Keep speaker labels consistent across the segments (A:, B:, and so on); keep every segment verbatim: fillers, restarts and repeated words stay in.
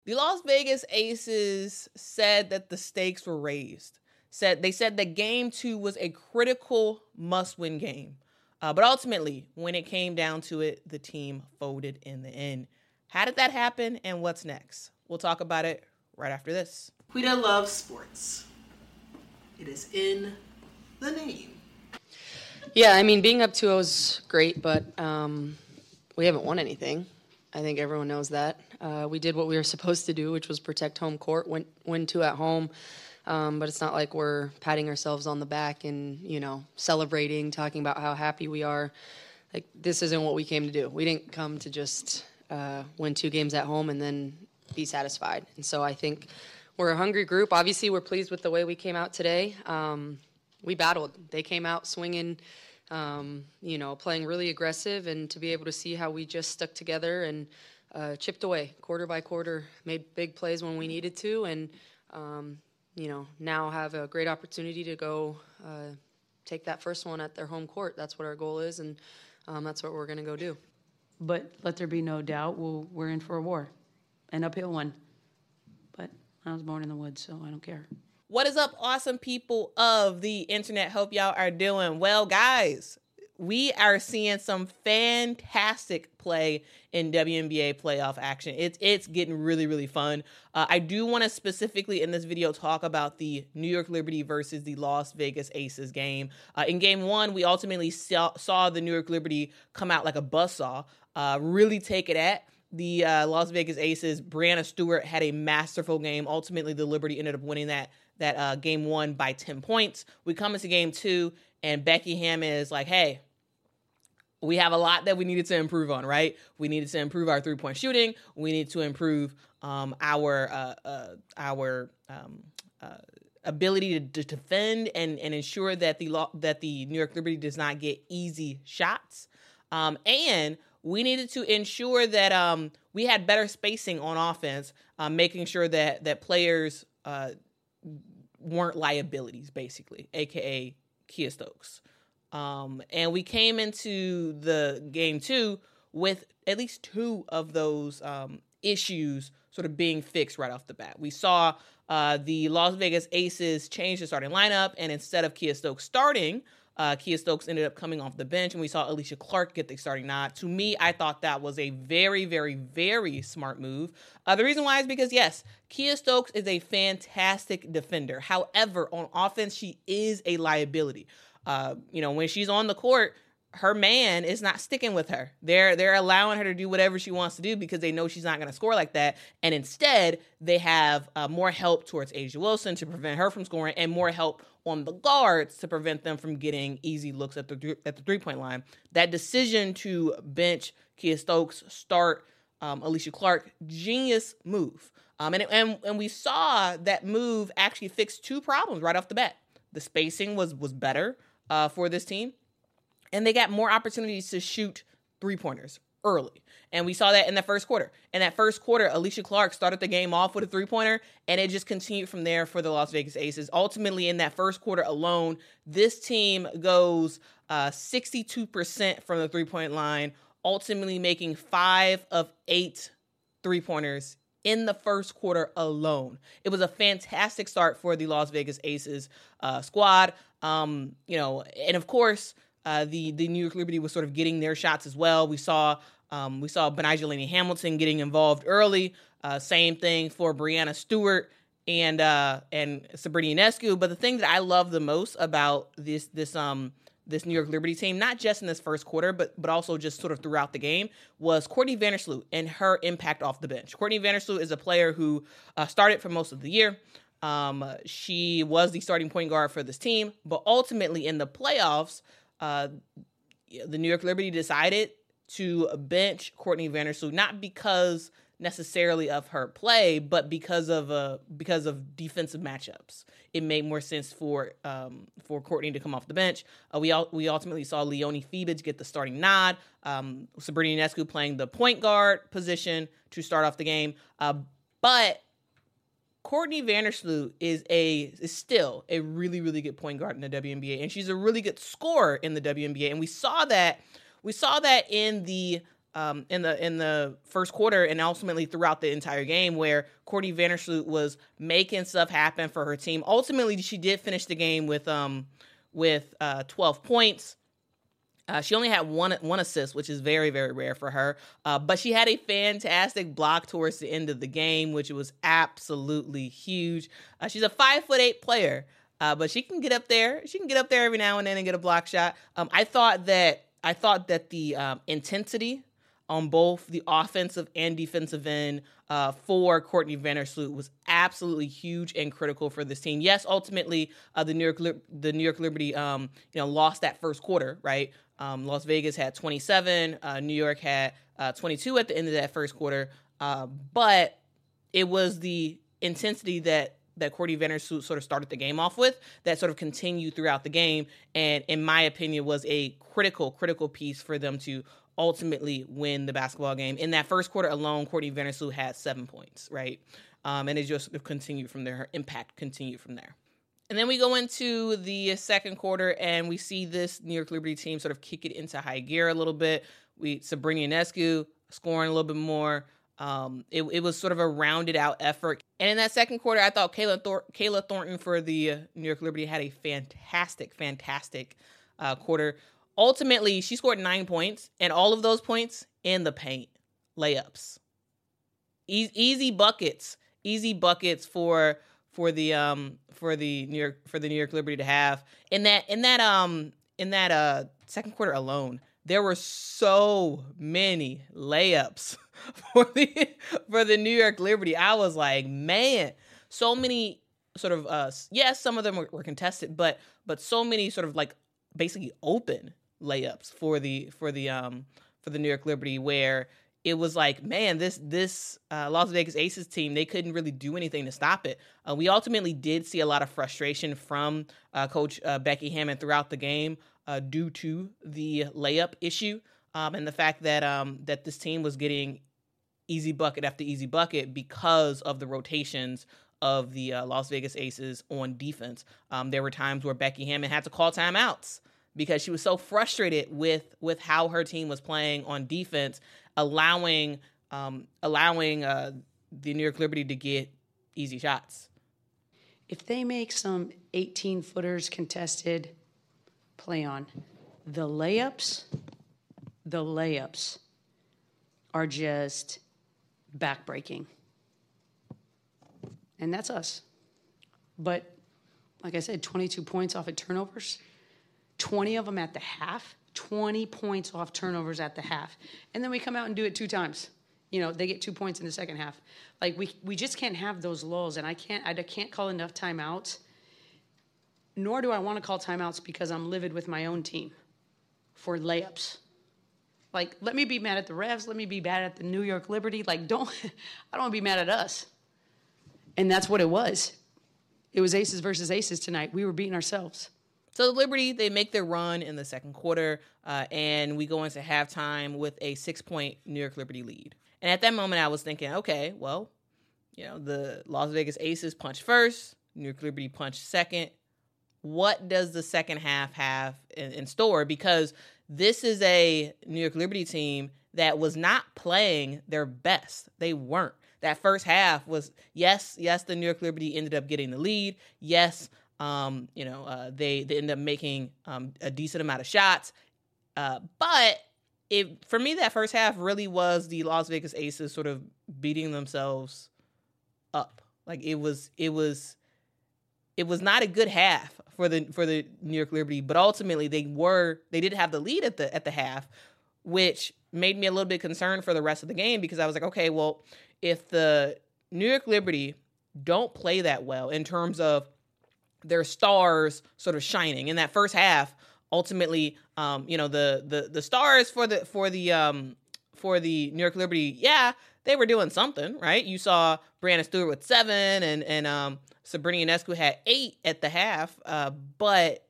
A: The Las Vegas Aces said that the stakes were raised. Said they said that game two was a critical must-win game. Uh, but ultimately, when it came down to it, the team folded in the end. How did that happen, and what's next? We'll talk about it right after this.
B: Quita loves sports. It is in the name.
C: Yeah, I mean, being up two oh is great, but um, we haven't won anything. I think everyone knows that. Uh, we did what we were supposed to do, which was protect home court, win, win two at home. Um, but it's not like we're patting ourselves on the back and, you know, celebrating, talking about how happy we are. Like, this isn't what we came to do. We didn't come to just uh, win two games at home and then be satisfied. And so I think we're a hungry group. Obviously, we're pleased with the way we came out today. Um, we battled. They came out swinging, um, you know, playing really aggressive, and to be able to see how we just stuck together and uh, chipped away quarter by quarter, made big plays when we needed to, and, um, you know, now have a great opportunity to go uh, take that first one at their home court. That's what our goal is, and um, that's what we're going to go do.
D: But let there be no doubt, we'll, we're in for a war, an uphill one. But I was born in the woods, so I don't care.
A: What is up, awesome people of the internet? Hope y'all are doing well, guys. We are seeing some fantastic play in W N B A playoff action. It's it's getting really, really fun. Uh, I do want to specifically in this video talk about the New York Liberty versus the Las Vegas Aces game. Uh, in game one, we ultimately saw, saw the New York Liberty come out like a buzzsaw, uh, really take it at the uh, Las Vegas Aces. Breanna Stewart had a masterful game. Ultimately, the Liberty ended up winning that that uh, game one by ten points. We come into game two, and Becky Hammon is like, hey, we have a lot that we needed to improve on, right? We needed to improve our three-point shooting. We need to improve um, our uh, uh, our um, uh, ability to, to defend and, and ensure that the law, that the New York Liberty does not get easy shots. Um, and we needed to ensure that um, we had better spacing on offense, um, making sure that that players uh, weren't liabilities, basically, a k a. Kiah Stokes. Um, and we came into the game two with at least two of those um, issues sort of being fixed right off the bat. We saw uh, the Las Vegas Aces change the starting lineup, and instead of Kiah Stokes starting, uh, Kiah Stokes ended up coming off the bench, and we saw Alysha Clark get the starting nod. To me, I thought that was a very, very, very smart move. Uh, the reason why is because, yes, Kiah Stokes is a fantastic defender. However, on offense, she is a liability. Uh, you know, when she's on the court, her man is not sticking with her. They're they're allowing her to do whatever she wants to do because they know she's not going to score like that. And instead, they have uh, more help towards A'ja Wilson to prevent her from scoring, and more help on the guards to prevent them from getting easy looks at the at the three-point line. That decision to bench Kiah Stokes, start um, Alysha Clark, genius move. Um, and, and and we saw that move actually fix two problems right off the bat. The spacing was was better Uh, for this team, and they got more opportunities to shoot three-pointers early. And we saw that in the first quarter. In that first quarter, Alysha Clark started the game off with a three-pointer, and it just continued from there for the Las Vegas Aces. Ultimately, in that first quarter alone, this team goes uh, sixty-two percent from the three-point line, ultimately making five of eight three-pointers in the first quarter alone. It was a fantastic start for the Las Vegas Aces uh, squad. Um, you know, and of course, uh, the the New York Liberty was sort of getting their shots as well. We saw um, we saw Betnijah Laney-Hamilton getting involved early. Uh, same thing for Breanna Stewart and uh, and Sabrina Ionescu. But the thing that I love the most about this this um this New York Liberty team, not just in this first quarter, but but also just sort of throughout the game, was Courtney Vandersloot and her impact off the bench. Courtney Vandersloot is a player who uh, started for most of the year. Um, she was the starting point guard for this team, but ultimately in the playoffs, uh, the New York Liberty decided to bench Courtney Vandersloot, not because necessarily of her play, but because of uh, because of defensive matchups. It made more sense for um, for Courtney to come off the bench. Uh, we all, we ultimately saw Leonie Fibage get the starting nod. Um, Sabrina Ionescu playing the point guard position to start off the game, uh, but Courtney Vandersloot is a is still a really, really good point guard in the W N B A, and she's a really good scorer in the W N B A. And we saw that we saw that in the um, in the in the first quarter and ultimately throughout the entire game, where Courtney Vandersloot was making stuff happen for her team. Ultimately, she did finish the game with um with uh, twelve points. Uh, she only had one one assist, which is very, very rare for her. Uh, but she had a fantastic block towards the end of the game, which was absolutely huge. Uh, she's a five foot eight player, uh, but she can get up there. She can get up there every now and then and get a block shot. Um, I thought that I thought that the um, intensity on both the offensive and defensive end uh, for Courtney Vandersloot was absolutely huge and critical for this team. Yes, ultimately uh, the New York the New York Liberty um, you know lost that first quarter, right? Um, Las Vegas had twenty-seven. Uh, New York had uh, twenty-two at the end of that first quarter. Uh, but it was the intensity that that Courtney Vandersloot sort of started the game off with that sort of continued throughout the game, and in my opinion was a critical, critical piece for them to ultimately win the basketball game. In that first quarter alone, Courtney Vandersloot had seven points, right? Um, and it just continued from there. Her impact continued from there. And then we go into the second quarter, and we see this New York Liberty team sort of kick it into high gear a little bit. We Sabrina Ionescu scoring a little bit more. Um, it, it was sort of a rounded out effort. And in that second quarter, I thought Kayla, Thor- Kayla Thornton for the uh, New York Liberty had a fantastic, fantastic uh, quarter. Ultimately, she scored nine points, and all of those points in the paint, layups, e- easy buckets, easy buckets for for the um for the New York for the New York Liberty to have in that in that um in that uh second quarter alone. There were so many layups for the for the New York Liberty. I was like, man, so many sort of uh yes, some of them were, were contested, but but so many sort of like basically open layups for the for the um for the New York Liberty, where it was like, man, this this uh, Las Vegas Aces team, they couldn't really do anything to stop it. Uh, we ultimately did see a lot of frustration from uh, Coach uh, Becky Hammon throughout the game uh, due to the layup issue um, and the fact that um, that this team was getting easy bucket after easy bucket because of the rotations of the uh, Las Vegas Aces on defense. Um, there were times where Becky Hammon had to call timeouts because she was so frustrated with with how her team was playing on defense, allowing um, allowing uh, the New York Liberty to get easy shots.
D: If they make some eighteen-footers contested play on, the layups, the layups are just backbreaking. And that's us. But like I said, twenty-two points off of turnovers, twenty of them at the half, twenty points off turnovers at the half. And then we come out and do it two times. You know, they get two points in the second half. Like, we we just can't have those lulls, and I can't I can't call enough timeouts, nor do I want to call timeouts because I'm livid with my own team for layups. Like, let me be mad at the refs. Let me be mad at the New York Liberty. Like, don't, I don't want to be mad at us. And that's what it was. It was aces versus aces tonight. We were beating ourselves.
A: So the Liberty, they make their run in the second quarter, uh, and we go into halftime with a six-point New York Liberty lead. And at that moment, I was thinking, okay, well, you know, the Las Vegas Aces punched first, New York Liberty punched second. What does the second half have in, in store? Because this is a New York Liberty team that was not playing their best. They weren't. That first half was, yes, yes, the New York Liberty ended up getting the lead. Yes, um, you know, uh, they, they ended up making um, a decent amount of shots. Uh, but it for me, that first half really was the Las Vegas Aces sort of beating themselves up. Like, it was, it was, it was not a good half for the for the New York Liberty, but ultimately they were they did have the lead at the at the half, which made me a little bit concerned for the rest of the game, because I was like, okay, well, if the New York Liberty don't play that well in terms of their stars sort of shining in that first half, ultimately, um, you know, the the the stars for the for the um for the New York Liberty, yeah, they were doing something, right? You saw Brianna Stewart with seven, and and um. Sabrina Ionescu had eight at the half, uh, but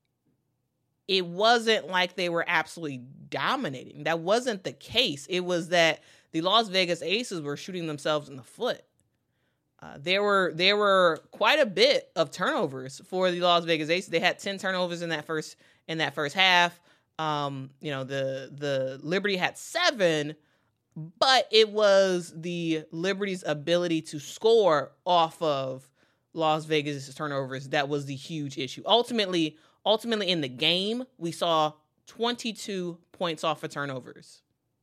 A: it wasn't like they were absolutely dominating. That wasn't the case. It was that the Las Vegas Aces were shooting themselves in the foot. Uh, there were there were quite a bit of turnovers for the Las Vegas Aces. They had ten turnovers in that first in that first half. Um, you know, the the Liberty had seven, but it was the Liberty's ability to score off of Las Vegas' turnovers that was the huge issue. Ultimately, ultimately in the game, we saw twenty-two points off of turnovers.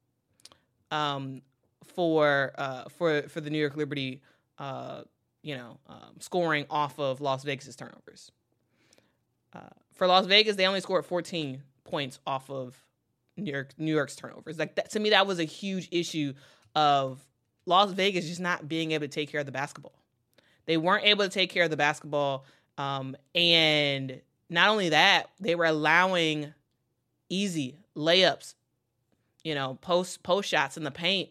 A: Um, for uh for for the New York Liberty, uh, you know, um, scoring off of Las Vegas' turnovers. Uh, for Las Vegas, they only scored fourteen points off of New York New York's turnovers. Like that, to me, that was a huge issue of Las Vegas just not being able to take care of the basketball. They weren't able to take care of the basketball, um, and not only that, they were allowing easy layups, you know, post post shots in the paint,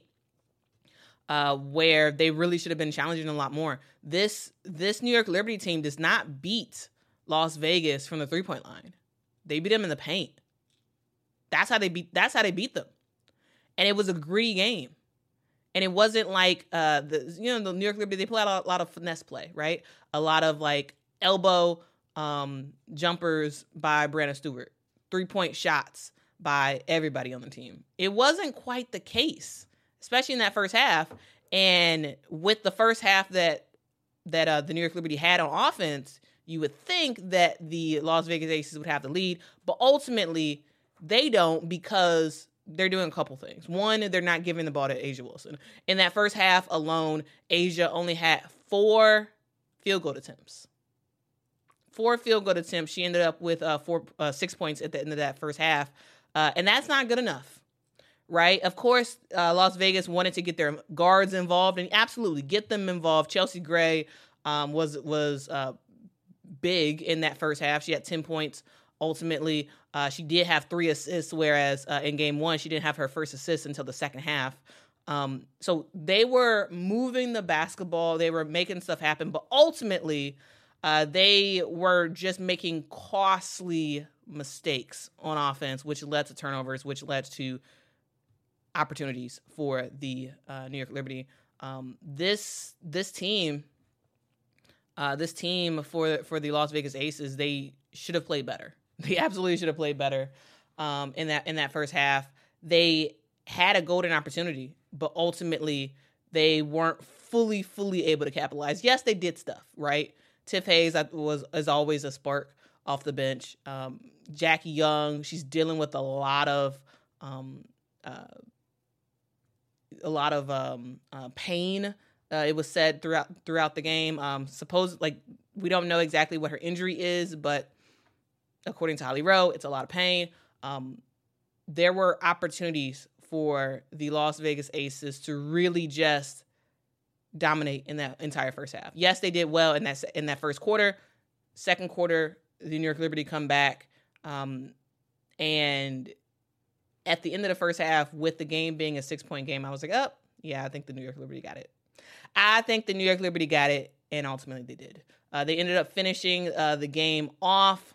A: uh, where they really should have been challenging a lot more. This this New York Liberty team does not beat Las Vegas from the three point line. They beat them in the paint. That's how they beat. That's how they beat them, and it was a gritty game. And it wasn't like uh, the you know the New York Liberty. They play a lot, a lot of finesse play, right? A lot of like elbow um, jumpers by Brandon Stewart, three point shots by everybody on the team. It wasn't quite the case, especially in that first half. And with the first half that that uh, the New York Liberty had on offense, you would think that the Las Vegas Aces would have the lead, but ultimately they don't because they're doing a couple things. One, they're not giving the ball to A'ja Wilson. In that first half alone, A'ja only had four field goal attempts. Four field goal attempts. She ended up with uh, four, uh, six points at the end of that first half, uh, and that's not good enough, right? Of course, uh, Las Vegas wanted to get their guards involved, and absolutely get them involved. Chelsea Gray um, was was uh, big in that first half. She had ten points. Ultimately, uh, she did have three assists, whereas uh, in game one, she didn't have her first assist until the second half. Um, so they were moving the basketball. They were making stuff happen. But ultimately, uh, they were just making costly mistakes on offense, which led to turnovers, which led to opportunities for the uh, New York Liberty. Um, this this team, uh, this team for for the Las Vegas Aces, they should have played better. They absolutely should have played better um, in that in that first half. They had a golden opportunity, but ultimately they weren't fully, fully able to capitalize. Yes, they did stuff, right? Tiff Hayes was is always a spark off the bench. Um, Jackie Young, she's dealing with a lot of um, uh, a lot of um, uh, pain. Uh, it was said throughout throughout the game. Um, suppose like we don't know exactly what her injury is, but according to Holly Rowe, it's a lot of pain. Um, there were opportunities for the Las Vegas Aces to really just dominate in that entire first half. Yes, they did well in that in that first quarter. Second quarter, the New York Liberty come back, um, and at the end of the first half, with the game being a six-point game, I was like, oh, yeah, I think the New York Liberty got it. I think the New York Liberty got it, and ultimately they did. Uh, they ended up finishing uh, the game off.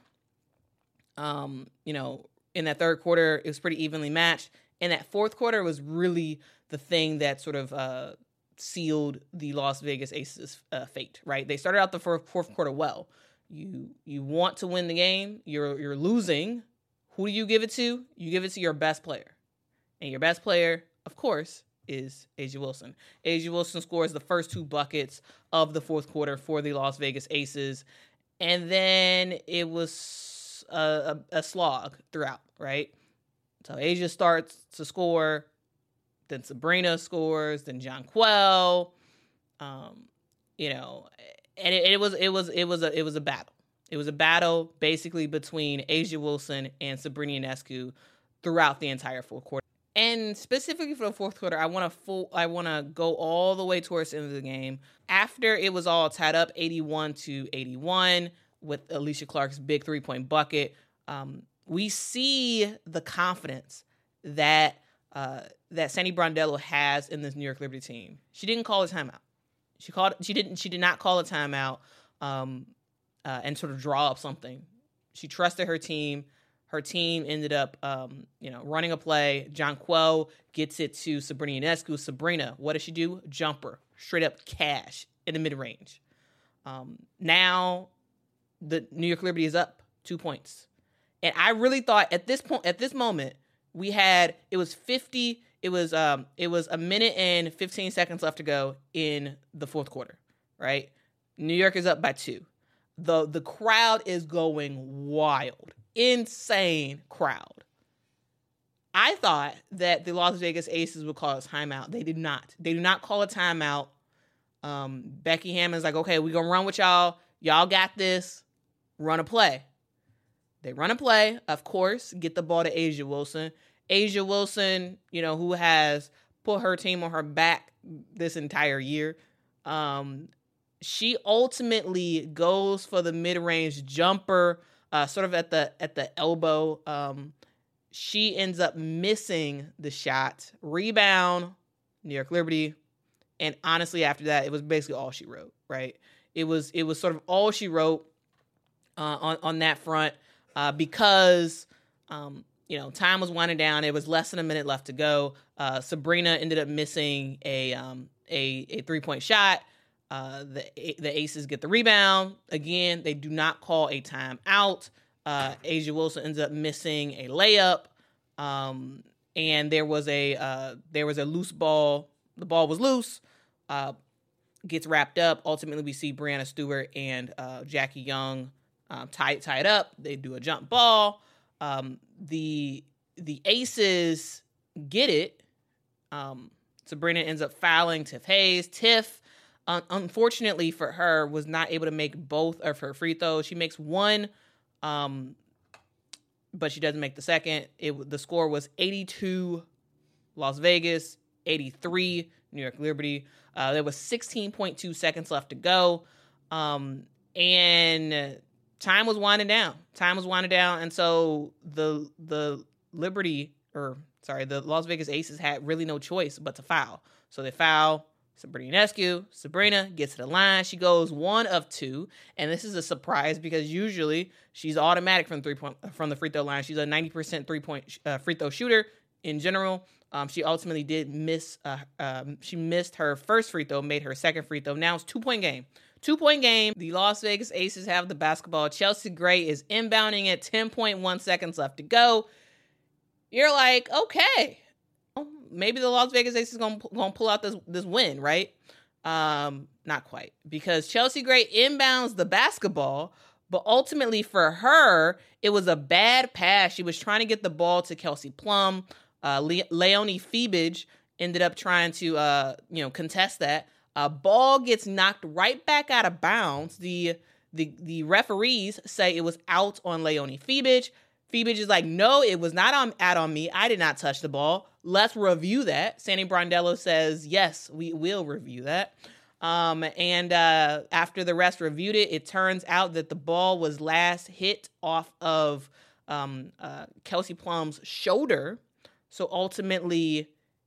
A: Um, you know, in that third quarter, it was pretty evenly matched. And that fourth quarter was really the thing that sort of uh, sealed the Las Vegas Aces' uh, fate, right? They started out the fourth, fourth quarter well. You you want to win the game. You're you're losing. Who do you give it to? You give it to your best player. And your best player, of course, is A'ja Wilson. A'ja Wilson scores the first two buckets of the fourth quarter for the Las Vegas Aces. And then it was A, a, a slog throughout, right? So A'ja starts to score, then Sabrina scores, then Jonquel, um, you know, and it, it was it was it was a it was a battle. It was a battle basically between A'ja Wilson and Sabrina Ionescu throughout the entire fourth quarter. And specifically for the fourth quarter, I want to full I want to go all the way towards the end of the game. After it was all tied up, eighty-one to eighty-one. With Alicia Clark's big three-point bucket, um, we see the confidence that uh, that Sandy Brondello has in this New York Liberty team. She didn't call a timeout. She called. She didn't. She did not call a timeout um, uh, and sort of draw up something. She trusted her team. Her team ended up, um, you know, running a play. Jonquel gets it to Sabrina Ionescu. Sabrina, what does she do? Jumper, straight up cash in the mid range. Um, now. The New York Liberty is up two points. And I really thought at this point, at this moment, we had, it was fifty, it was um, it was a minute and fifteen seconds left to go in the fourth quarter, right? New York is up by two. The, the crowd is going wild. Insane crowd. I thought that the Las Vegas Aces would call a timeout. They did not. They do not call a timeout. Um, Becky Hammond's like, okay, we're going to run with y'all. Y'all got this. Run a play. They run a play, of course, get the ball to A'ja Wilson. A'ja Wilson, you know, who has put her team on her back this entire year. Um, she ultimately goes for the mid-range jumper, uh, sort of at the at the elbow. Um, she ends up missing the shot. Rebound, New York Liberty. And honestly, after that, it was basically all she wrote, right? It was it was sort of all she wrote uh, on, on that front. Uh, because, um, you know, time was winding down. It was less than a minute left to go. Uh, Sabrina ended up missing a um, a, a three-point shot. Uh, the the Aces get the rebound. Again, they do not call a timeout. Uh, A'ja Wilson ends up missing a layup. Um, and there was a uh, there was a loose ball. The ball was loose. Uh, gets wrapped up. Ultimately, we see Breanna Stewart and uh, Jackie Young Um, tie, tie it up. They do a jump ball. Um, the the Aces get it. Um, Sabrina ends up fouling Tiff Hayes. Tiff, un- unfortunately for her, was not able to make both of her free throws. She makes one, um, but she doesn't make the second. It the score was eighty-two Las Vegas, eighty-three New York Liberty. Uh, there was sixteen point two seconds left to go. Um, and Time was winding down. Time was winding down, and so the the Liberty, or sorry, the Las Vegas Aces had really no choice but to foul. So they foul Sabrina Ionescu. Sabrina gets to the line. She goes one of two, and this is a surprise because usually she's automatic from three point from the free throw line. She's a ninety percent three point uh, free throw shooter in general. Um, she ultimately did miss. Uh, um, she missed her first free throw, made her second free throw. Now it's two point game. Two-point game. The Las Vegas Aces have the basketball. Chelsea Gray is inbounding at ten point one seconds left to go. You're like, okay, maybe the Las Vegas Aces gonna gonna pull out this this win, right? Um, not quite, because Chelsea Gray inbounds the basketball, but ultimately for her, it was a bad pass. She was trying to get the ball to Kelsey Plum. Uh, Le- Leonie Feebage ended up trying to, uh, you know, contest that. A ball gets knocked right back out of bounds. The the the referees say it was out on Leonie Feebage. Feebage is like, no, it was not on, out on me. I did not touch the ball. Let's review that. Sandy Brondello says, yes, we will review that. Um, and uh, after the rest reviewed it, it turns out that the ball was last hit off of um, uh, Kelsey Plum's shoulder. So ultimately,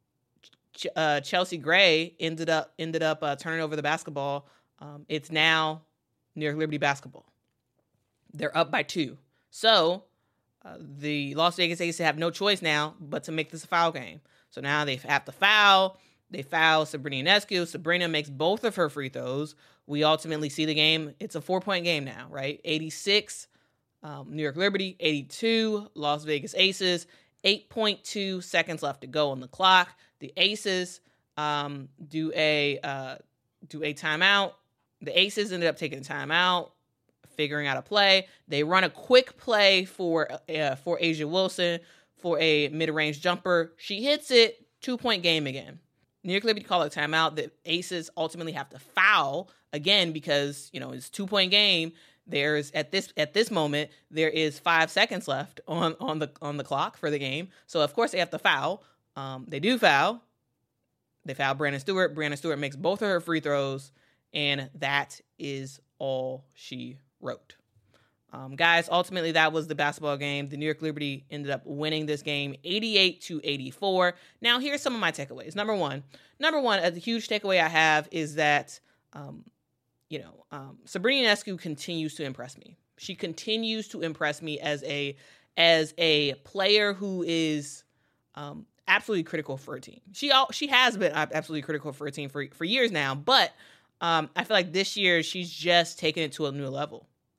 A: Uh, Chelsea Gray ended up ended up uh, turning over the basketball. Um, it's now New York Liberty basketball. They're up by two. So uh, the Las Vegas Aces have no choice now but to make this a foul game. So now they have to foul. They foul Sabrina Ionescu. Sabrina makes both of her free throws. We ultimately see the game. It's a four-point game now, right? eighty-six um, New York Liberty, eighty-two Las Vegas Aces. eight point two seconds left to go on the clock. The Aces um, do a uh, do a timeout. The Aces ended up taking a timeout, figuring out a play. They run a quick play for uh, for A'ja Wilson for a mid-range jumper. She hits it. Two-point game again. New York Liberty call a timeout. The Aces ultimately have to foul again because, you know, it's two-point game. There's at this at this moment there is five seconds left on, on the on the clock for the game. So of course they have to foul. Um, they do foul. They foul Breanna Stewart. Breanna Stewart makes both of her free throws, and that is all she wrote. Um, guys, ultimately that was the basketball game. The New York Liberty ended up winning this game eighty-eight to eighty-four. Now here's some of my takeaways. Number one, number one, a huge takeaway I have is that um, you know, um, Sabrina Ionescu continues to impress me. She continues to impress me as a as a player who is um, absolutely critical for a team. She she has been absolutely critical for a team for for years now, but um, I feel like this year she's just taken it to a new level.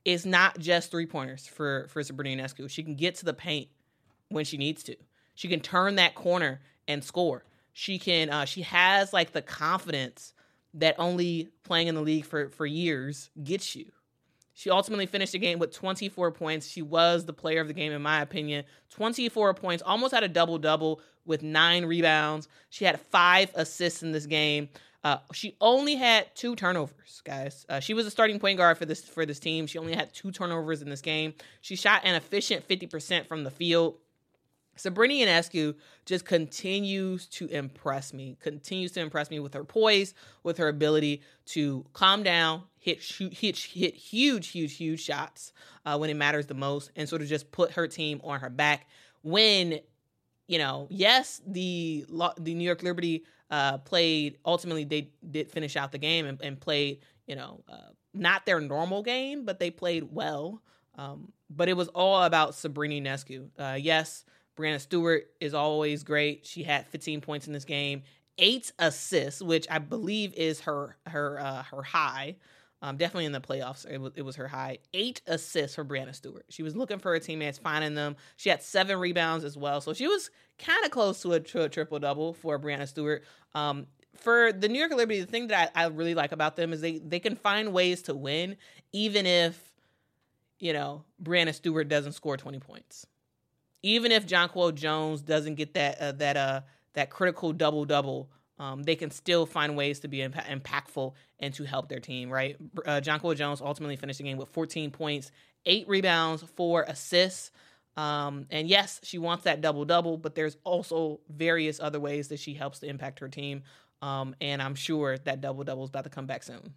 A: it's not just three pointers for for Sabrina Ionescu. She can get to the paint when she needs to. She can turn that corner and score. She can. Uh, she has like the confidence that only playing in the league for for years gets you. She ultimately finished the game with twenty-four points. She was the player of the game, in my opinion. twenty-four points, almost had a double-double with nine rebounds. She had five assists in this game. Uh, she only had two turnovers, guys. Uh, she was a starting point guard for this for this team. She only had two turnovers in this game. She shot an efficient fifty percent from the field. Sabrina Ionescu just continues to impress me, continues to impress me with her poise, with her ability to calm down, hit shoot, hit, hit huge, huge, huge shots uh, when it matters the most, and sort of just put her team on her back. When, you know, yes, the the New York Liberty uh, played, ultimately they did finish out the game and, and played, you know, uh, not their normal game, but they played well. Um, but it was all about Sabrina Ionescu. Uh, yes, Brianna Stewart is always great. She had fifteen points in this game, eight assists, which I believe is her her uh, her high. Um, definitely in the playoffs, it was, it was her high. Eight assists for Brianna Stewart. She was looking for her teammates, finding them. She had seven rebounds as well, so she was kind of close to a, to a triple double for Brianna Stewart. Um, for the New York Liberty, the thing that I, I really like about them is they they can find ways to win, even if, you know, Brianna Stewart doesn't score twenty points. Even if Jonquel Jones doesn't get that uh, that uh that critical double double, um, they can still find ways to be imp- impactful and to help their team. Right? Uh, Jonquel Jones ultimately finished the game with fourteen points, eight rebounds, four assists. Um, and yes, she wants that double double, but there's also various other ways that she helps to impact her team. Um, and I'm sure that double double is about to come back soon.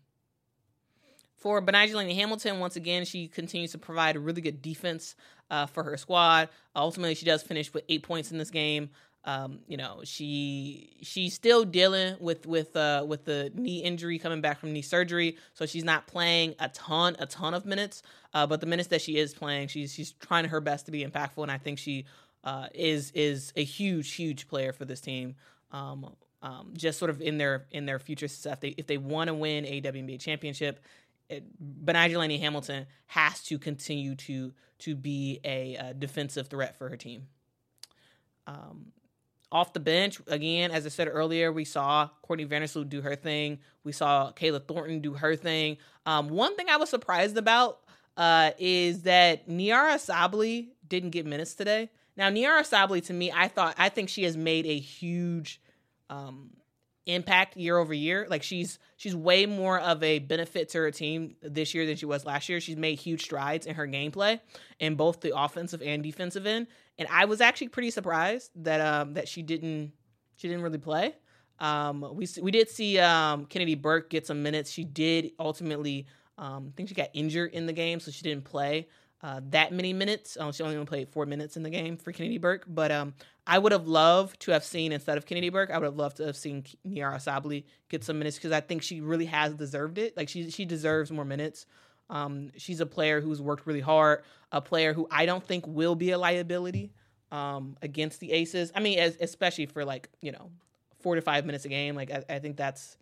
A: For Betnijah Hamilton, once again, she continues to provide a really good defense uh, for her squad. Ultimately, she does finish with eight points in this game. Um, you know, she she's still dealing with with uh, with the knee injury, coming back from knee surgery, so she's not playing a ton a ton of minutes. Uh, but the minutes that she is playing, she's she's trying her best to be impactful, and I think she uh, is is a huge huge player for this team. Um, um, just sort of in their in their future success, if they, if they want to win a W N B A championship, Betnijah Hamilton has to continue to to be a, a defensive threat for her team. Um, off the bench, again, as I said earlier, we saw Courtney Vandersloot do her thing. We saw Kayla Thornton do her thing. Um, one thing I was surprised about uh, is that Niara Sabally didn't get minutes today. Now, Niara Sabally, to me, I thought I think she has made a huge um, impact year over year. Like she's she's way more of a benefit to her team this year than she was last year. She's made huge strides in her gameplay in both the offensive and defensive end. And I was actually pretty surprised that um that she didn't she didn't really play. Um we we did see um Kennedy Burke get some minutes. She did ultimately um I think she got injured in the game, so she didn't play uh that many minutes. Um, she only played four minutes in the game for Kennedy Burke, but um I would have loved to have seen, instead of Kennedy Burke, I would have loved to have seen Niara Sabally get some minutes, because I think she really has deserved it. Like she she deserves more minutes. Um, she's a player who's worked really hard, a player who I don't think will be a liability um, against the Aces. I mean, as, especially for like, you know, four to five minutes a game. Like I, I think that's,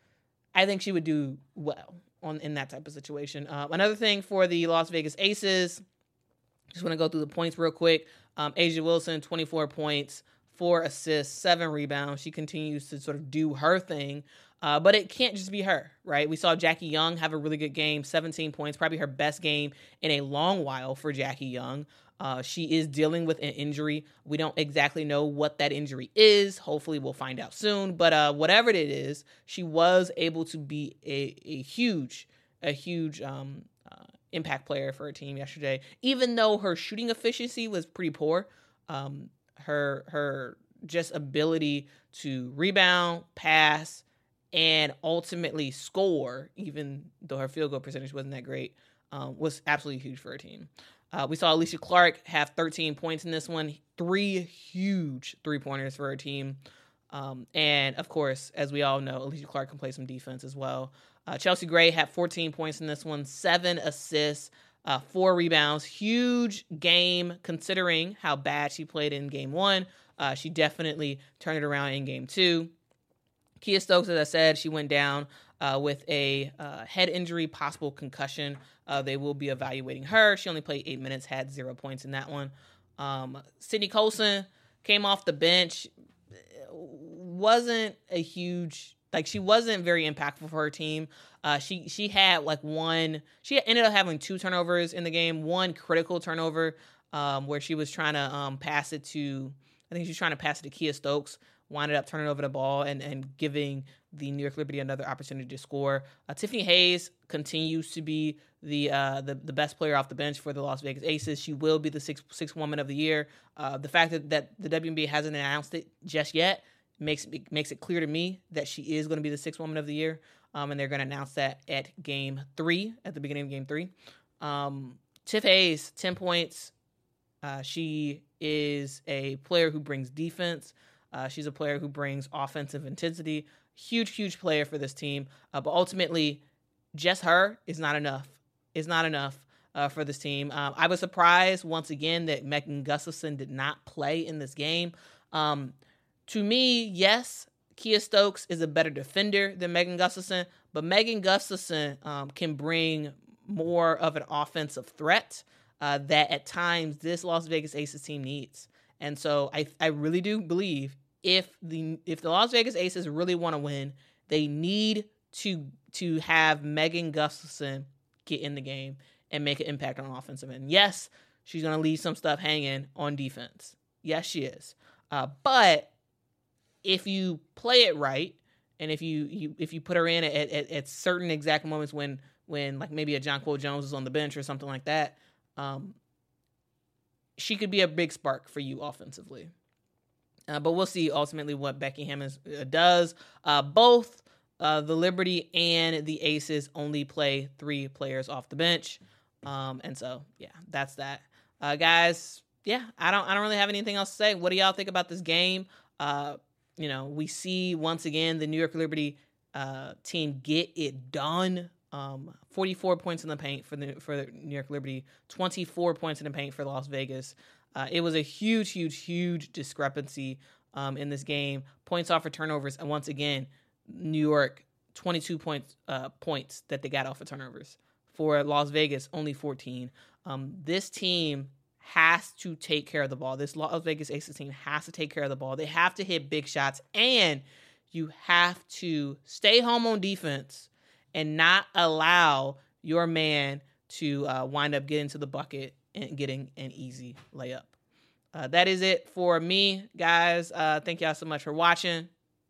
A: I think she would do well on in that type of situation. Uh, another thing for the Las Vegas Aces, just want to go through the points real quick. Um, A'ja Wilson, twenty-four points, four assists, seven rebounds. She continues to sort of do her thing. Uh, but it can't just be her, right? We saw Jackie Young have a really good game, seventeen points, probably her best game in a long while for Jackie Young. Uh, she is dealing with an injury. We don't exactly know what that injury is. Hopefully we'll find out soon. But uh, whatever it is, she was able to be a, a huge, a huge um, uh, impact player for her team yesterday. Even though her shooting efficiency was pretty poor, um, her her just ability to rebound, pass, and ultimately score, even though her field goal percentage wasn't that great, um, was absolutely huge for her team. Uh, we saw Alicia Clark have thirteen points in this one, three huge three-pointers for her team. Um, and, of course, as we all know, Alicia Clark can play some defense as well. Uh, Chelsea Gray had fourteen points in this one, seven assists, uh, four rebounds. Huge game considering how bad she played in game one. Uh, she definitely turned it around in game two. Kia Stokes, as I said, she went down uh, with a uh, head injury, possible concussion. Uh, they will be evaluating her. She only played eight minutes, had zero points in that one. Um, Sydney Colson came off the bench. Wasn't a huge, like she wasn't very impactful for her team. Uh, she she had like one, she ended up having two turnovers in the game, one critical turnover um, where she was trying to um, pass it to, I think she was trying to pass it to Kia Stokes, winded up turning over the ball and, and giving the New York Liberty another opportunity to score. Uh, Tiffany Hayes continues to be the, uh, the the best player off the bench for the Las Vegas Aces. She will be the sixth, sixth woman of the year. Uh, the fact that, that the W N B A hasn't announced it just yet makes makes it clear to me that she is going to be the sixth woman of the year, um, and they're going to announce that at game three, at the beginning of game three. Um, Tiff Hayes, ten points. Uh, she is a player who brings defense. Uh, she's a player who brings offensive intensity. Huge, huge player for this team. Uh, but ultimately, just her is not enough. Is not enough uh, for this team. Um, I was surprised once again that Megan Gustafson did not play in this game. Um, to me, yes, Kia Stokes is a better defender than Megan Gustafson, but Megan Gustafson um, can bring more of an offensive threat uh, that at times this Las Vegas Aces team needs. And so I, I really do believe if the if the Las Vegas Aces really want to win, they need to to have Megan Gustafson get in the game and make an impact on offensive end. Yes, she's going to leave some stuff hanging on defense. Yes, she is. Uh, but if you play it right, and if you, you if you put her in at, at, at certain exact moments when when like maybe a Jonquel Jones is on the bench or something like that, um, she could be a big spark for you offensively. Uh, but we'll see ultimately what Becky Hammons uh, does. Uh, both uh, the Liberty and the Aces only play three players off the bench, um, and so yeah, that's that, uh, guys. Yeah, I don't I don't really have anything else to say. What do y'all think about this game? Uh, you know, we see once again the New York Liberty uh, team get it done. Um, forty-four points in the paint for the for the New York Liberty, twenty-four points in the paint for Las Vegas. Uh, it was a huge, huge, huge discrepancy um, in this game. Points off for turnovers, and once again, New York twenty-two points uh, points that they got off of turnovers. For Las Vegas, only fourteen. Um, this team has to take care of the ball. This Las Vegas Aces team has to take care of the ball. They have to hit big shots, and you have to stay home on defense and not allow your man to uh, wind up getting to the bucket and getting an easy layup. Uh, that is it for me, guys. Uh, thank y'all so much for watching.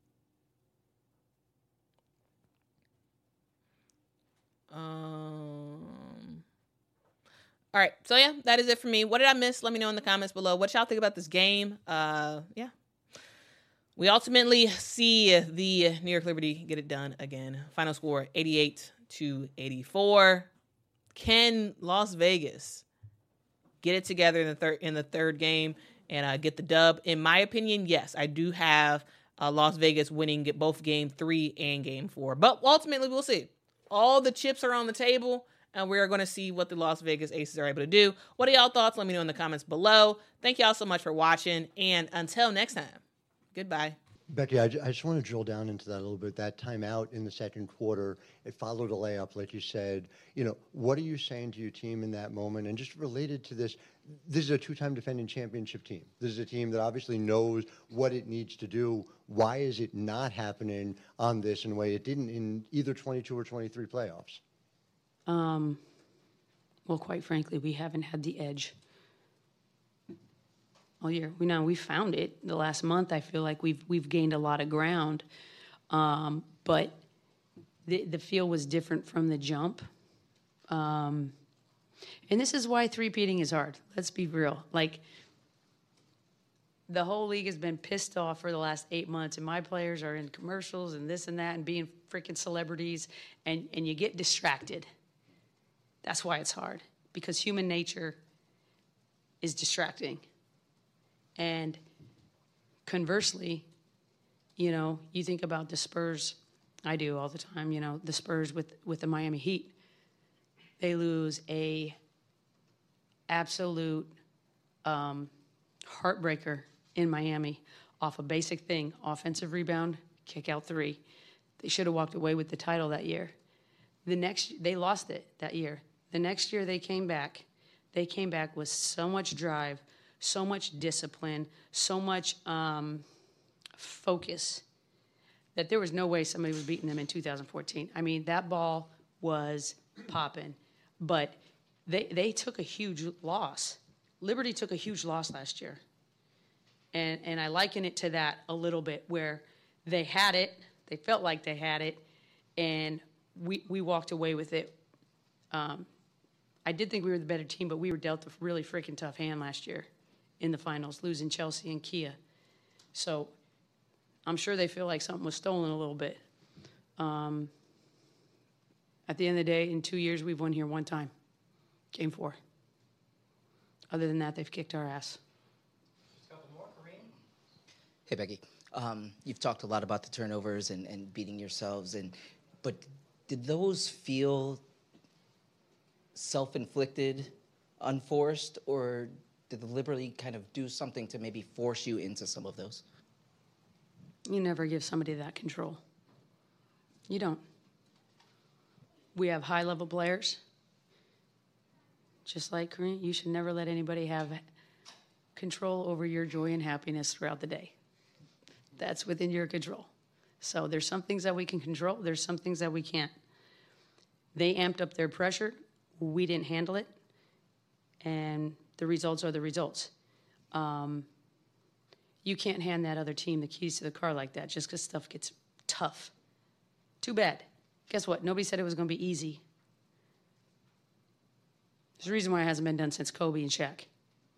A: Um, all right. So, yeah, that is it for me. What did I miss? Let me know in the comments below. What y'all think about this game? Uh, yeah. We ultimately see the New York Liberty get it done again. Final score, eighty-eight to eighty-four. Can Las Vegas get it together in the third in the third game and uh, get the dub? In my opinion, yes. I do have uh, Las Vegas winning get both game three and game four. But ultimately, we'll see. All the chips are on the table, and we're going to see what the Las Vegas Aces are able to do. What are y'all thoughts? Let me know in the comments below. Thank y'all so much for watching, and until next time, goodbye.
E: Becky, I, I just want to drill down into that a little bit. That timeout in the second quarter, it followed a layup, like you said. You know, what are you saying to your team in that moment? And just related to this, this is a two-time defending championship team. This is a team that obviously knows what it needs to do. Why is it not happening on this in a way it didn't in either twenty-two or twenty-three playoffs?
D: Um, well, quite frankly, we haven't had the edge all year. We know we found it the last month. I feel like we've we've gained a lot of ground, um, but the the feel was different from the jump. Um, and this is why three-peating is hard. Let's be real. Like, the whole league has been pissed off for the last eight months, and my players are in commercials and this and that and being freaking celebrities, and, and you get distracted. That's why it's hard, because human nature is distracting. And conversely, you know, you think about the Spurs. I do all the time, you know, the Spurs with, with the Miami Heat. They lose a absolute um, heartbreaker in Miami off a basic thing, offensive rebound, kick out three. They should have walked away with the title that year. The next, they lost it that year. The next year they came back. They came back with so much drive, so much discipline, so much um, focus that there was no way somebody was beating them in two thousand fourteen. I mean, that ball was popping, but they they took a huge loss. Liberty took a huge loss last year, and and I liken it to that a little bit, where they had it, they felt like they had it, and we we walked away with it. Um, I did think we were the better team, but we were dealt a really freaking tough hand last year in the finals, losing Chelsea and Kia. So I'm sure they feel like something was stolen a little bit. Um, at the end of the day, in two years, we've won here one time, game four. Other than that, they've kicked our ass.
F: Hey, Becky. Um, you've talked a lot about the turnovers and, and beating yourselves, and but did those feel self-inflicted, unforced, or did the Liberty kind of do something to maybe force you into some of those?
D: You never give somebody that control. You don't. We have high-level players. Just like Kareem, you should never let anybody have control over your joy and happiness throughout the day. That's within your control. So there's some things that we can control. There's some things that we can't. They amped up their pressure. We didn't handle it. And the results are the results. Um, you can't hand that other team the keys to the car like that just because stuff gets tough. Too bad. Guess what? Nobody said it was going to be easy. There's a reason why it hasn't been done since Kobe and Shaq.